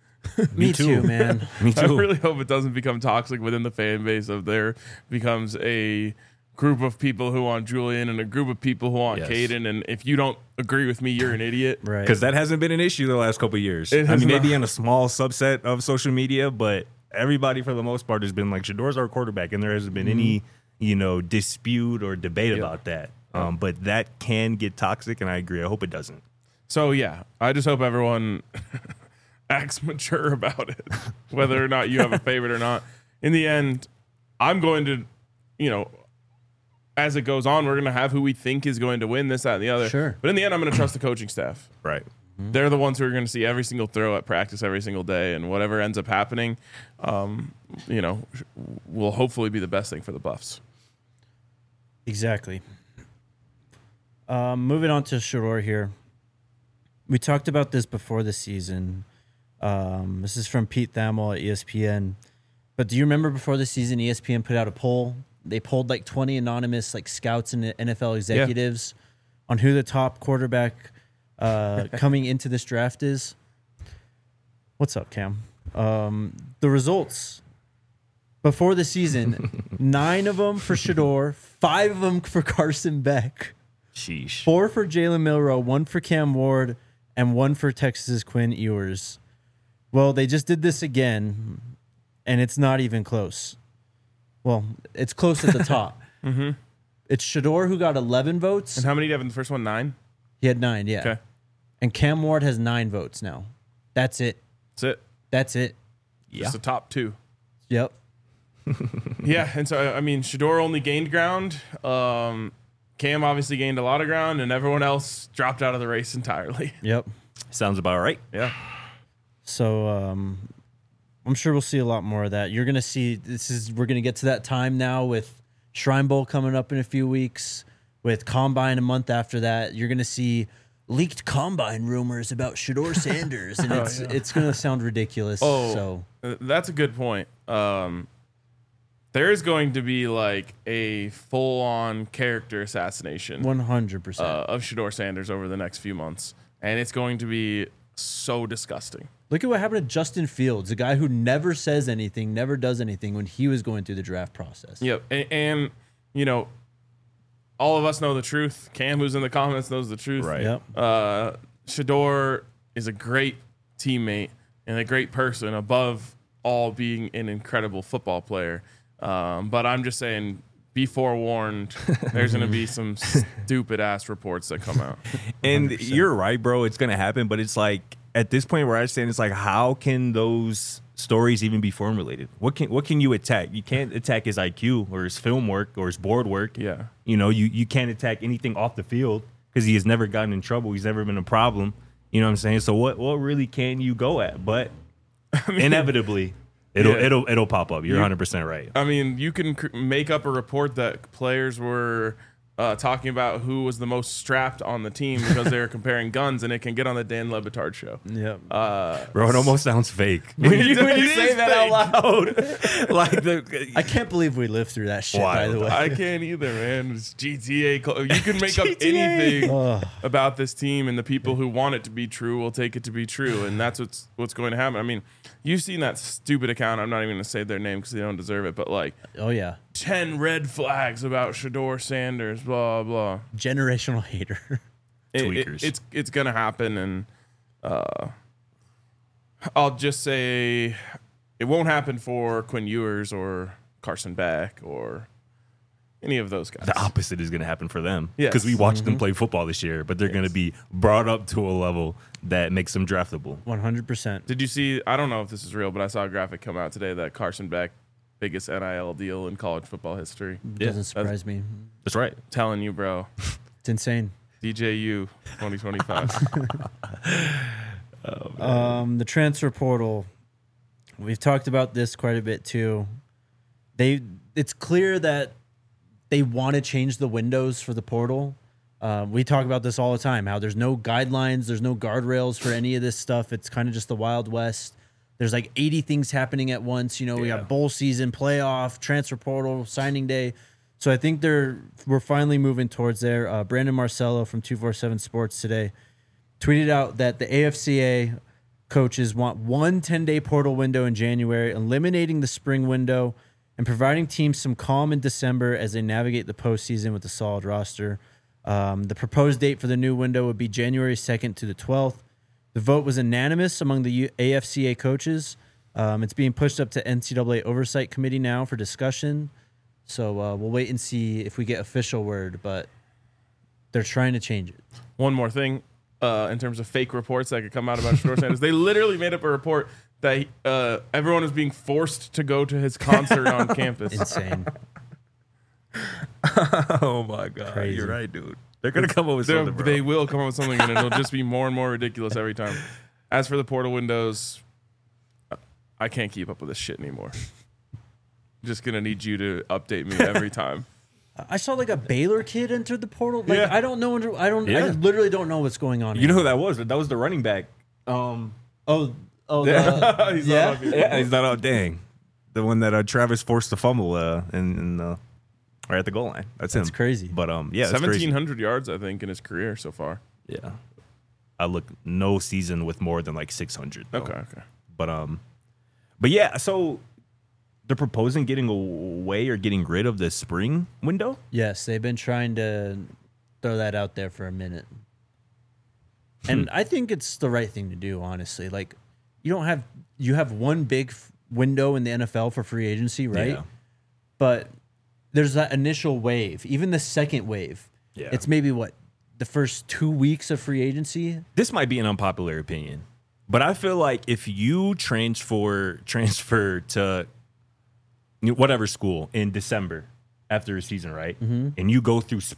Me too, man. Me too. I really hope it doesn't become toxic within the fan base of there becomes a group of people who want Julian and a group of people who want Caden. And if you don't agree with me, you're an idiot. Right. Because that hasn't been an issue the last couple of years. I mean, maybe in a small subset of social media, but everybody for the most part has been like, Shadour's our quarterback, and there hasn't been any, you know, dispute or debate about that. But that can get toxic, and I agree. I hope it doesn't. So, yeah, I just hope everyone acts mature about it, whether or not you have a favorite or not. In the end, I'm going to, you know, as it goes on, we're going to have who we think is going to win this, that, and the other. Sure. But in the end, I'm going to trust the coaching staff. Right. they're the ones who are going to see every single throw at practice every single day, and whatever ends up happening, will hopefully be the best thing for the Buffs. Exactly. Moving on to Shador here. We talked about this before the season. This is from Pete Thamel at ESPN. But do you remember before the season, ESPN put out a poll? They polled like 20 anonymous like scouts and NFL executives on who the top quarterback coming into this draft is. What's up, Cam? The results before the season, 9 of them for Shador, 5 of them for Carson Beck. Sheesh. 4 for Jalen Milroe, 1 for Cam Ward, and 1 for Texas's Quinn Ewers. Well, they just did this again, and it's not even close. Well, it's close at the top. Mm-hmm. It's Shador who got 11 votes. And how many do you have in the first one? 9? He had 9, yeah. Okay. And Cam Ward has 9 votes now. That's it. That's it. Yeah. Just the top 2. Yep. Yeah, and so, I mean, Shador only gained ground. Cam obviously gained a lot of ground, and everyone else dropped out of the race entirely. Yep. Sounds about right. Yeah. So I'm sure we'll see a lot more of that. You're gonna see we're gonna get to that time now with Shrine Bowl coming up in a few weeks, with Combine a month after that. You're gonna see leaked Combine rumors about Shador Sanders, and it's gonna sound ridiculous. So That's a good point. There is going to be like a full-on character assassination 100%. of Shador Sanders over the next few months, and it's going to be so disgusting. Look at what happened to Justin Fields, a guy who never says anything, never does anything when he was going through the draft process. Yep, and all of us know the truth. Cam, who's in the comments, knows the truth. Right. Yep. Shador is a great teammate and a great person, above all being an incredible football player. But I'm just saying, be forewarned. There's going to be some stupid ass reports that come out. And 100%. you're right, bro. It's going to happen. But it's like, at this point where I stand, it's like, how can those stories even be formulated? What can you attack? You can't attack his IQ or his film work or his board work. Yeah. You can't attack anything off the field because he has never gotten in trouble. He's never been a problem. You know what I'm saying? So what really can you go at? But inevitably, it'll pop up. You're 100% right. I mean, you can make up a report that players were talking about who was the most strapped on the team because they were comparing guns, and it can get on the Dan Le Batard show. Yep. Bro, it almost sounds fake when you say that out loud. Like I can't believe we lived through that shit, by the way. I can't either, man. It's GTA. You can make up anything about this team, and the people who want it to be true will take it to be true, and that's what's going to happen. I mean, you've seen that stupid account. I'm not even going to say their name because they don't deserve it, but like, Oh, yeah. 10 red flags about Shador Sanders, blah, blah. Generational hater. Tweakers. It's going to happen, and I'll just say it won't happen for Quinn Ewers or Carson Beck or any of those guys. The opposite is going to happen for them. Yes. Because we watched them play football this year, but they're going to be brought up to a level that makes them draftable. 100%. Did you see, I don't know if this is real, but I saw a graphic come out today that Carson Beck, biggest NIL deal in college football history. Doesn't surprise me. That's right. Telling you, bro. It's insane. DJU 2025. The transfer portal. We've talked about this quite a bit too. It's clear that they want to change the windows for the portal. We talk about this all the time, how there's no guidelines, there's no guardrails for any of this stuff. It's kind of just the Wild West. There's like 80 things happening at once. We got bowl season, playoff, transfer portal, signing day. So I think we're finally moving towards there. Brandon Marcello from 247 Sports today tweeted out that the AFCA coaches want one 10-day portal window in January, eliminating the spring window and providing teams some calm in December as they navigate the postseason with a solid roster. The proposed date for the new window would be January 2nd to the 12th. The vote was unanimous among the AFCA coaches. It's being pushed up to NCAA Oversight Committee now for discussion. So we'll wait and see if we get official word, but they're trying to change it. One more thing, in terms of fake reports that could come out about Shador Sanders, they literally made up a report that everyone is being forced to go to his concert on campus. Insane. Oh my God. Crazy. You're right, dude. They're gonna come up with something, bro. They will come up with something, and it'll just be more and more ridiculous every time. As for the portal windows, I can't keep up with this shit anymore. Just gonna need you to update me every time. I saw like a Baylor kid enter the portal. Like I don't know. I literally don't know what's going on. You know who that was? That was the running back. Oh, He's not he's not out. Dang, the one that Travis forced to fumble right at the goal line. That's him. That's crazy. But yeah, 1,700 yards, I think, in his career so far. Yeah, I look no season with more than like 600. Though. Okay. But yeah, so they're proposing getting away or getting rid of the spring window. Yes, they've been trying to throw that out there for a minute, and I think it's the right thing to do. Honestly, like you have one big window in the NFL for free agency, right? Yeah. But there's that initial wave, even the second wave. Yeah. It's maybe the first 2 weeks of free agency. This might be an unpopular opinion, but I feel like if you transfer to whatever school in December after a season, right? Mm-hmm. And you go through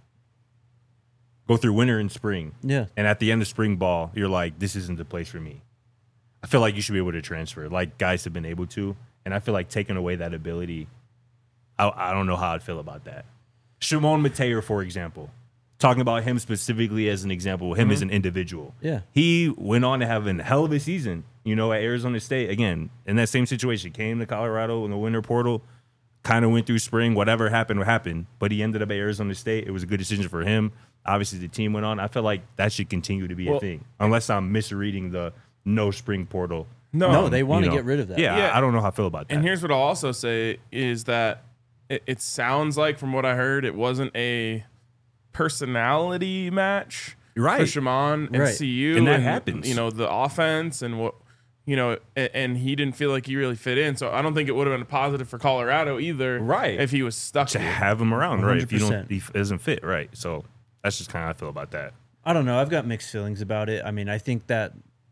winter and spring. Yeah. And at the end of spring ball, you're like, this isn't the place for me. I feel like you should be able to transfer, like guys have been able to. And I feel like taking away that ability, I don't know how I'd feel about that. Shimon Mateer, for example, talking about him specifically as an example, him as an individual. Yeah. He went on to have a hell of a season, at Arizona State. Again, in that same situation, came to Colorado in the winter portal, kind of went through spring. Whatever happened. But he ended up at Arizona State. It was a good decision for him. Obviously, the team went on. I feel like that should continue to be a thing, unless I'm misreading the no spring portal. No, they want to get rid of that. Yeah, I don't know how I feel about that. And here's what I'll also say is that it sounds like, from what I heard, it wasn't a personality match right. for Shimon and CU. And that happens. The offense and what, and he didn't feel like he really fit in. So I don't think it would have been a positive for Colorado either. Right. If he was stuck to have him around, 100%. Right? If he doesn't fit, right. So that's just kind of how I feel about that. I don't know. I've got mixed feelings about it. I mean, I think that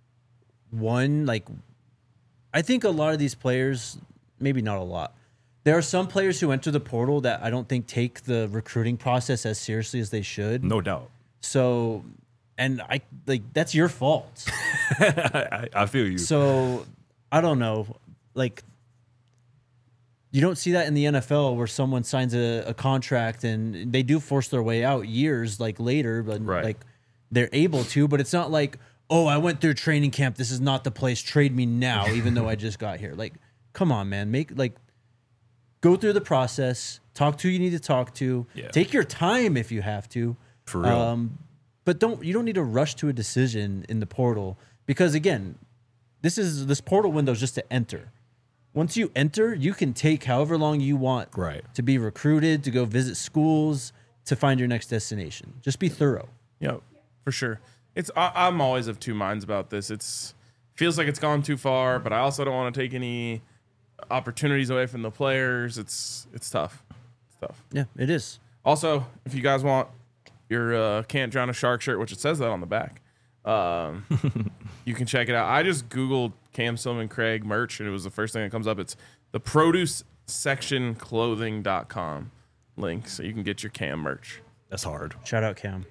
I think a lot of these players, maybe not a lot, there are some players who enter the portal that I don't think take the recruiting process as seriously as they should. No doubt. So, and that's your fault. I feel you. So, I don't know. You don't see that in the NFL where someone signs a contract and they do force their way out years later, but right. They're able to, but it's not like, oh, I went through training camp. This is not the place. Trade me now, even though I just got here. Come on, man. Go through the process. Talk to who you need to talk to. Yeah. Take your time if you have to. For real. But you don't need to rush to a decision in the portal because, again, this portal window is just to enter. Once you enter, you can take however long you want to be recruited, to go visit schools, to find your next destination. Just be thorough. Yeah, for sure. I'm always of two minds about this. Feels like it's gone too far, but I also don't want to take any opportunities away from the players. It's tough. It's tough. Yeah, it is. Also, if you guys want your Can't Drown a Shark shirt, which it says that on the back, you can check it out. I just Googled Cam Silman Craig merch, and it was the first thing that comes up. It's the producesectionclothing.com link, so you can get your Cam merch. That's hard. Shout out Cam.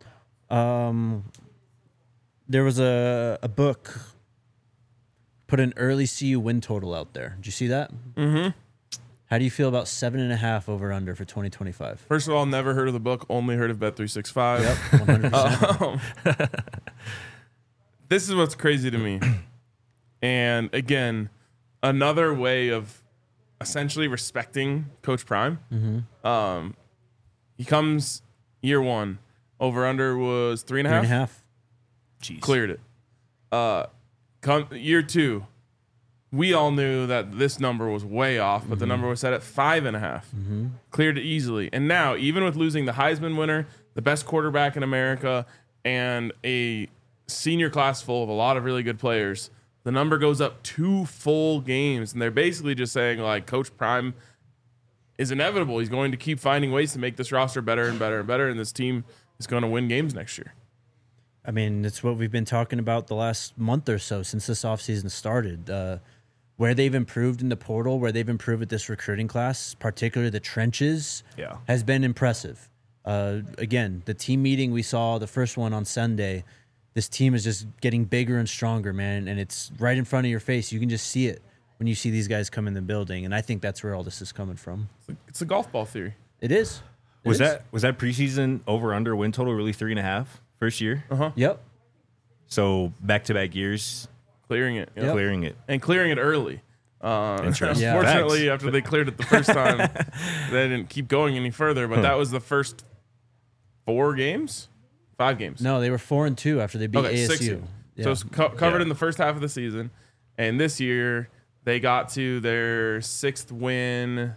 There was a book put an early CU win total out there. Did you see that? Mm-hmm. How do you feel about 7.5 over under for 2025? First of all, never heard of the book. Only heard of Bet365. Yep, 100%. This is what's crazy to me. And again, another way of essentially respecting Coach Prime. Mm-hmm. He comes year one. Over under was 3.5. 3.5. Jeez. Cleared it. Come year two, we all knew that this number was way off, but the number was set at 5.5. Mm-hmm. Cleared it easily. And now, even with losing the Heisman winner, the best quarterback in America, and a senior class full of a lot of really good players, the number goes up 2 full games. And they're basically just saying, Coach Prime is inevitable. He's going to keep finding ways to make this roster better and better and better, and this team is going to win games next year. I mean, it's what we've been talking about the last month or so since this offseason started. Where they've improved in the portal, where they've improved with this recruiting class, particularly the trenches, has been impressive. Again, the team meeting we saw, the first one on Sunday, this team is just getting bigger and stronger, man, and it's right in front of your face. You can just see it when you see these guys come in the building, and I think that's where all this is coming from. It's a golf ball theory. It is. Was that preseason over under win total really 3.5 first year? Yep. So back-to-back years Clearing it. Yep. clearing it. And clearing it early. Interesting. Yeah. Unfortunately, Facts. after they cleared it the first time, they didn't keep going any further. But that was the first 5 games. No, they were 4-2 after they beat ASU. 6 years. Yeah. So it's covered Yeah. in the first half of the season. And this year, they got to their 6th win.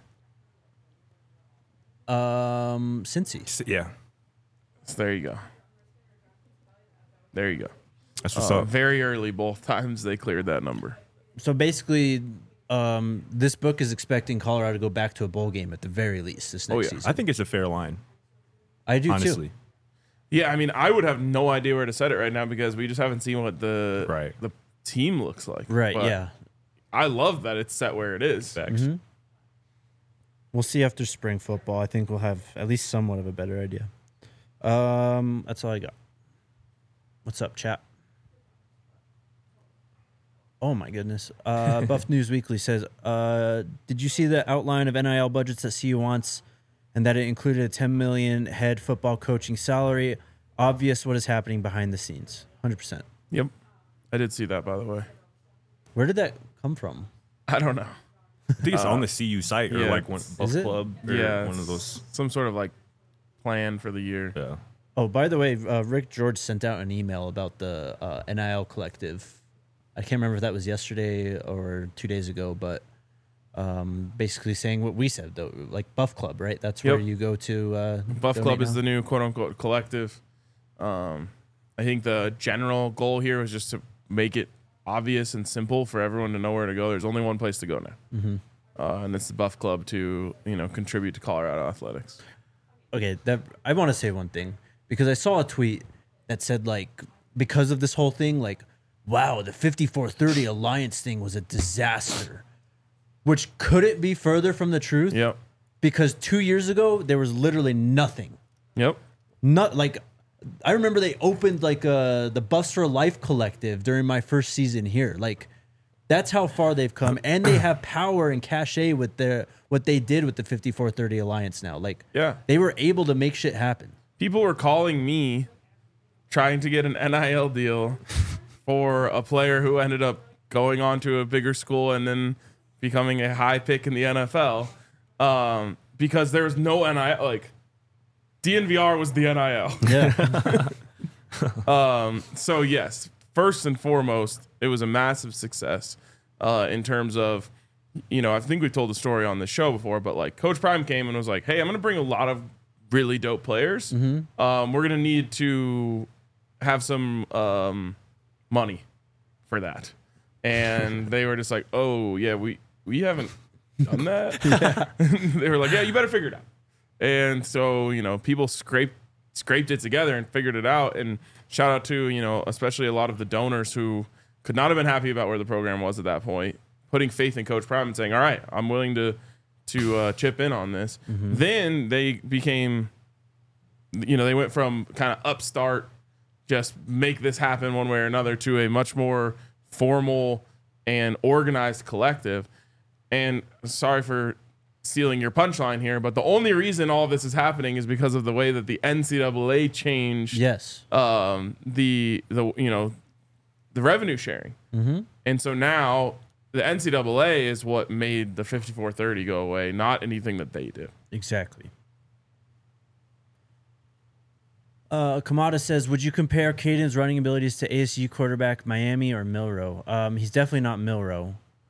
Cincy. Yeah. So there you go. There you go. That's what's up. Very early, both times they cleared that number. So basically, this book is expecting Colorado to go back to a bowl game at the very least this next season. I think it's a fair line, I do honestly. too. Yeah, I mean, I would have no idea where to set it right now because we just haven't seen what the team looks like. Right, But yeah. I love that it's set where it is. Facts. We'll see after spring football. I think we'll have at least somewhat of a better idea. That's all I got. What's up, chat? Oh my goodness. Buff News Weekly says, did you see the outline of NIL budgets that CU wants and that it included a 10 million head football coaching salary? Obvious what is happening behind the scenes. 100%. Yep. I did see that, by the way. Where did that come from? I don't know. I think it's on the CU site or yeah, like one Buff Is it? Club or Yeah. one of those. Some sort of like plan for the year. Yeah. Oh, by the way, Rick George sent out an email about the NIL collective. I can't remember if that was yesterday or 2 days ago, but basically saying what we said, though, like Buff Club, right? That's where Yep. you go to. Buff donate Club is now? the new quote unquote collective. I think the general goal here was just to make it obvious and simple for everyone to know where to go. There's only one place to go now. And it's the Buff Club to, contribute to Colorado athletics. Okay, I want to say one thing because I saw a tweet that said, like, because of this whole thing, like, wow, the 5430 Alliance thing was a disaster. Which couldn't be further from the truth. Yep. Because 2 years ago, there was literally nothing. Yep. Not like, I remember they opened like the Buffs for Life collective during my first season here. Like, that's how far they've come, and they have power and cachet with what they did with the 5430 Alliance now. Like, Yeah. they were able to make shit happen. People were calling me trying to get an NIL deal for a player who ended up going on to a bigger school and then becoming a high pick in the NFL because there was no NIL. Like, DNVR was the NIL. Yeah. So, yes, first and foremost, it was a massive success in terms of, I think we told the story on the show before, but like Coach Prime came and was like, hey, I'm going to bring a lot of really dope players. We're going to need to have some money for that. And they were just like, oh, yeah, we haven't done that. They were like, yeah, you better figure it out. And so, people scraped it together and figured it out. And shout out to, especially a lot of the donors who could not have been happy about where the program was at that point, putting faith in Coach Prime and saying, all right, I'm willing to chip in on this. Then they became, they went from kind of upstart, just make this happen one way or another, to a much more formal and organized collective. And sorry for stealing your punchline here, but the only reason all of this is happening is because of the way that the NCAA changed Yes. the revenue sharing. And so now the NCAA is what made the 5430 go away, not anything that they did. Exactly. Kamada says, would you compare Caden's running abilities to ASU quarterback Miami or Milroe? He's definitely not Milroe.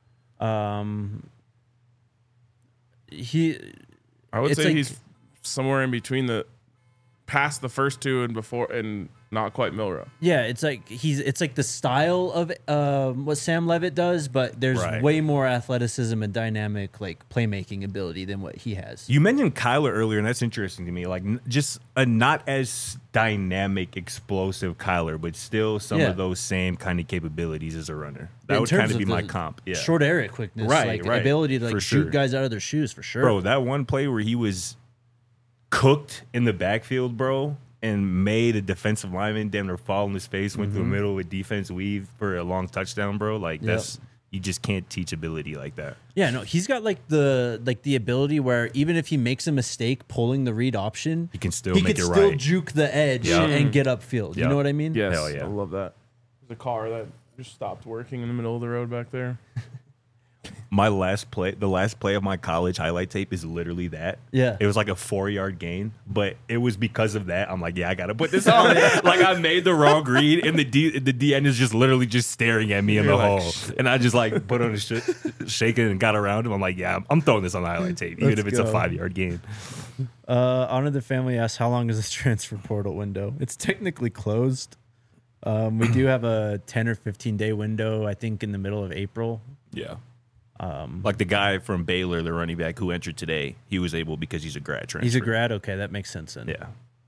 I would It's say like- he's somewhere in between past the first two and before, and not quite Milroe. Yeah, it's like the style of what Sam Levitt does, but there's Right. way more athleticism and dynamic like playmaking ability than what he has. You mentioned Kyler earlier, and that's interesting to me. Like, just a not as dynamic, explosive Kyler, but still some Yeah. of those same kind of capabilities as a runner. That In would terms kind of be of my the comp. Yeah. Short area quickness, Right, like right. ability to like For shoot sure. guys out of their shoes for sure. Bro, that one play where he was cooked in the backfield, bro, and made a defensive lineman damn near fall on his face, went through the middle with defense weave for a long touchdown, bro. Like that's you just can't teach ability like that. Yeah, no, he's got like the ability where even if he makes a mistake pulling the read option, He can still he make could it still right. juke the edge Yeah. and get upfield. You Yeah. know what I mean? Yes, Hell yeah. I love that. There's a car that just stopped working in the middle of the road back there. My last play, the last play of my college highlight tape is literally that. Yeah. It was like a 4-yard gain, but it was because of that. I'm like, yeah, I got to put this on. Like I made the wrong read and the D end is just literally just staring at me in the You're like, hole. And I just like put on a shaking and got around him. I'm like, yeah, I'm throwing this on the highlight tape, even Let's if it's a go. 5-yard gain. Honor the Family asks, how long is this transfer portal window? It's technically closed. We do have a 10 or 15 day window, I think, in the middle of April. Yeah. Like the guy from Baylor, the running back who entered today, he was able because he's a grad transfer. He's a grad. Okay, that makes sense then.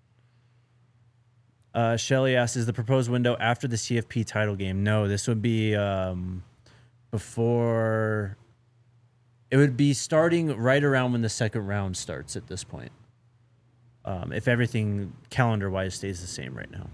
Yeah. Shelly asks, is the proposed window after the CFP title game? No, this would be before. It would be starting right around when the second round starts at this point. If everything calendar-wise stays the same right now.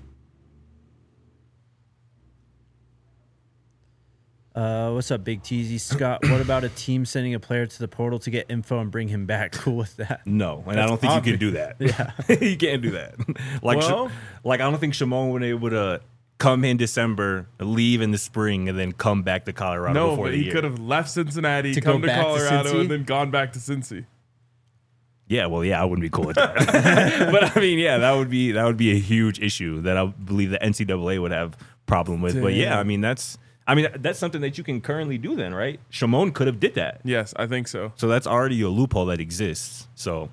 What's up, Big Teasy? Scott, what about a team sending a player to the portal to get info and bring him back? Cool with that? No, and I don't think you can do that. Yeah. You can't do that. Like, Well- like I don't think Shimon would be able to come in December, leave in the spring, and then come back to Colorado No, before but the he year. could have left Cincinnati, To go come to back to Colorado, Cincy? and then gone back to Cincy. Yeah, well, yeah, I wouldn't be cool with that. But I mean, yeah, that would be a huge issue that I believe the NCAA would have problem with. But yeah, Damn. I mean that's something that you can currently do then, right? Shimon could have did that. Yes, I think so. So that's already a loophole that exists. So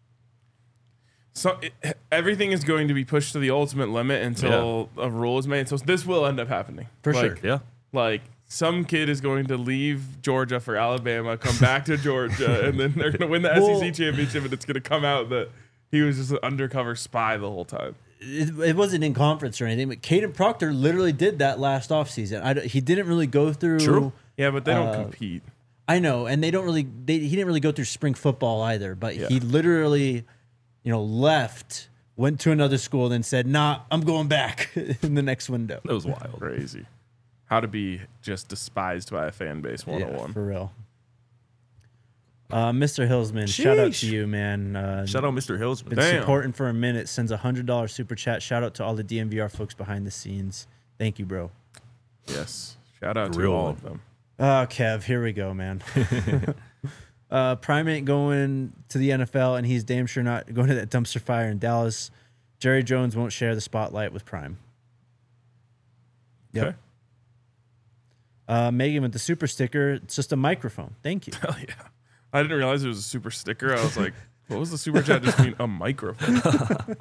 So everything is going to be pushed to the ultimate limit until a rule is made. So this will end up happening. For Like, sure. yeah. Like some kid is going to leave Georgia for Alabama, come back to Georgia, and then they're going to win the Well- SEC championship, and it's going to come out that he was just an undercover spy the whole time. It wasn't in conference or anything, but Caden Proctor literally did that last offseason. He didn't really go through. True. Yeah, but they don't compete. I know, and they don't really. He didn't really go through spring football either. But he literally, left, went to another school, then said, "Nah, I'm going back in the next window." That was wild. Crazy. How to be just despised by a fan base 101. Yeah, for real. Mr. Hillsman, shout out to Sheesh. you, man. Shout out Mr. Hillsman. Been Damn. supporting for a minute. Sends $100 super chat. Shout out to all the DMVR folks behind the scenes. Thank you, bro. Yes. Shout out to Real all one. of them. Kev, here we go, man. Prime ain't going to the NFL, and he's damn sure not going to that dumpster fire in Dallas. Jerry Jones won't share the spotlight with Prime. Yep. Okay. Megan with the super sticker. It's just a microphone. Thank you. Hell yeah. I didn't realize it was a super sticker. I was like, what was the super chat just mean? A microphone.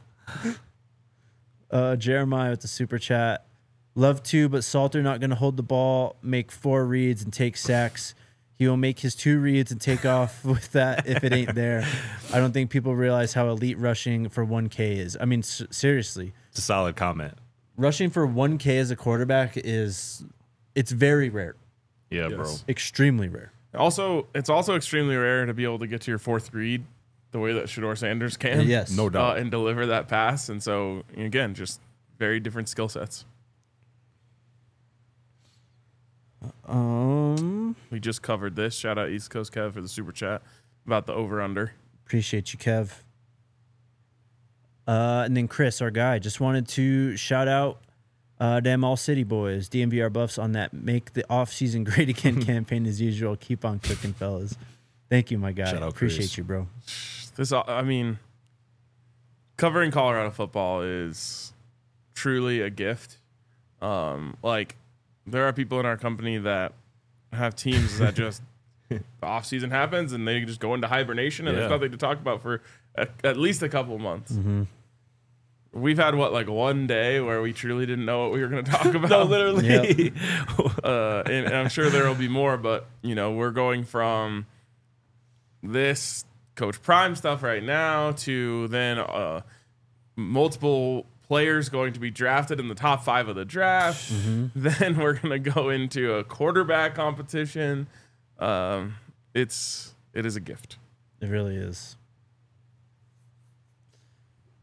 Jeremiah with the super chat. Love to, but Salter not going to hold the ball, make 4 reads, and take sacks. He will make his 2 reads and take off with that if it ain't there. I don't think people realize how elite rushing for 1K is. I mean, seriously, It's a solid comment. rushing for 1K as a quarterback it's very rare, Yeah, Yes. bro. extremely rare. Also, it's also extremely rare to be able to get to your 4th read the way that Shador Sanders can. Yes. No doubt. And deliver that pass. And so, again, just very different skill sets. We just covered this. Shout out East Coast Kev for the super chat about the over-under. Appreciate you, Kev. And then Chris, our guy, just wanted to shout out them All City boys, DMVR buffs on that Make the Off-Season Great Again campaign as usual. Keep on cooking, fellas. Thank you, my guy. Shout out, Appreciate Chris. you, bro. Covering Colorado football is truly a gift. There are people in our company that have teams that just the off season happens and they just go into hibernation and there's Yeah. nothing to talk about for at least a couple of months. We've had one day where we truly didn't know what we were going to talk about. No, literally. And I'm sure there will be more, but we're going from this Coach Prime stuff right now to then multiple players going to be drafted in the top 5 of the draft. Then we're going to go into a quarterback competition. It is a gift. It really is.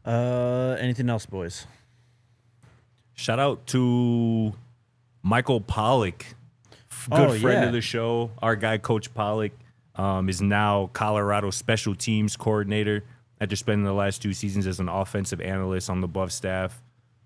Anything else, boys? Shout out to Michael Pollock, good friend of the show. Our guy, Coach Pollock, is now Colorado special teams coordinator after spending the last 2 seasons as an offensive analyst on the Buff staff.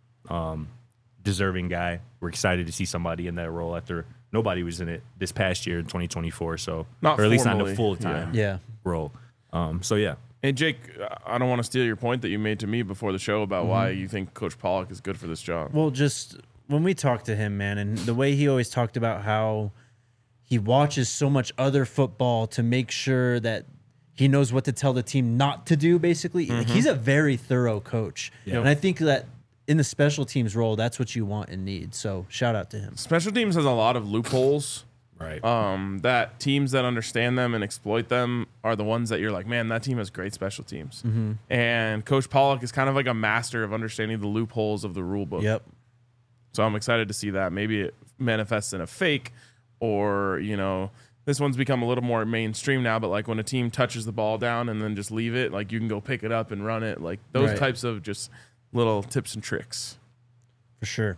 Deserving guy. We're excited to see somebody in that role after nobody was in it this past year in 2024. So, Not or at least not formally, a full time Yeah. role. So yeah. Hey, Jake, I don't want to steal your point that you made to me before the show about why you think Coach Pollock is good for this job. Well, just when we talked to him, man, and the way he always talked about how he watches so much other football to make sure that he knows what to tell the team not to do, basically. Like, he's a very thorough coach. Yeah. And I think that in the special teams role, that's what you want and need. So shout out to him. Special teams has a lot of loopholes. Right. That teams that understand them and exploit them are the ones that you're like, man, that team has great special teams. And Coach Pollock is kind of like a master of understanding the loopholes of the rule book. Yep. So I'm excited to see that. Maybe it manifests in a fake, or, you know, this one's become a little more mainstream now, but like when a team touches the ball down and then just leave it, like you can go pick it up and run it. Like those Right. types of just little tips and tricks. For sure.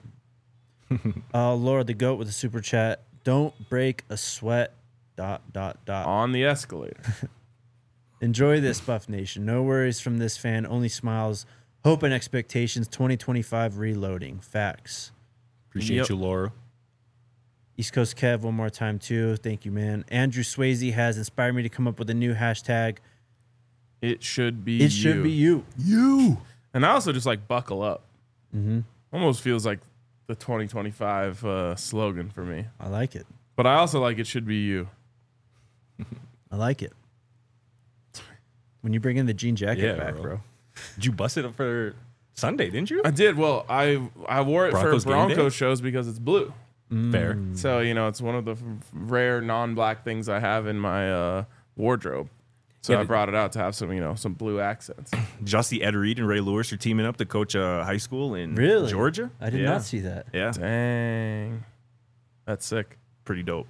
Laura the Goat with a super chat. Don't break a sweat. ... On the escalator. Enjoy this, Buff Nation. No worries from this fan. Only smiles. Hope and expectations. 2025 reloading. Facts. Appreciate Yep. you, Laura. East Coast Kev, one more time, too. Thank you, man. Andrew Swayze has inspired me to come up with a new hashtag. It should be It should be you. You. And I also just like buckle up. Almost feels like the 2025 slogan for me. I like it. But I also like it should be you. I like it. When you bring in the jean jacket Yeah, back, bro. bro. Did you bust it up for Sunday, didn't you? I did. Well, I wore it Broncos for game day? Broncos shows because it's blue. Fair. So, you know, it's one of the rare non-black things I have in my wardrobe. So I brought it out to have some, you know, some blue accents. Did y'all see Ed Reed and Ray Lewis are teaming up to coach a high school in Really? Georgia? I did Yeah. not see that. Yeah, Dang. That's sick. pretty dope.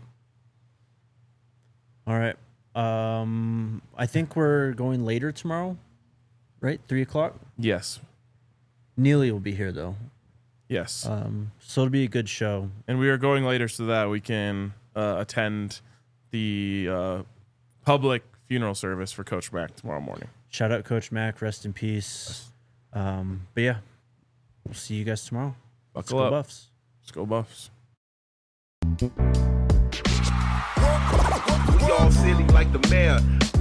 All right. I think we're going later tomorrow, right? 3 o'clock. Yes. Neely will be here, though. Yes. So it'll be a good show. And we are going later so that we can attend the public funeral service for Coach Mack tomorrow morning. Shout out Coach Mack. Rest in peace. But yeah, we'll see you guys tomorrow. Buckle Let's go up. Buffs. Let's go Buffs. We all silly like the mayor.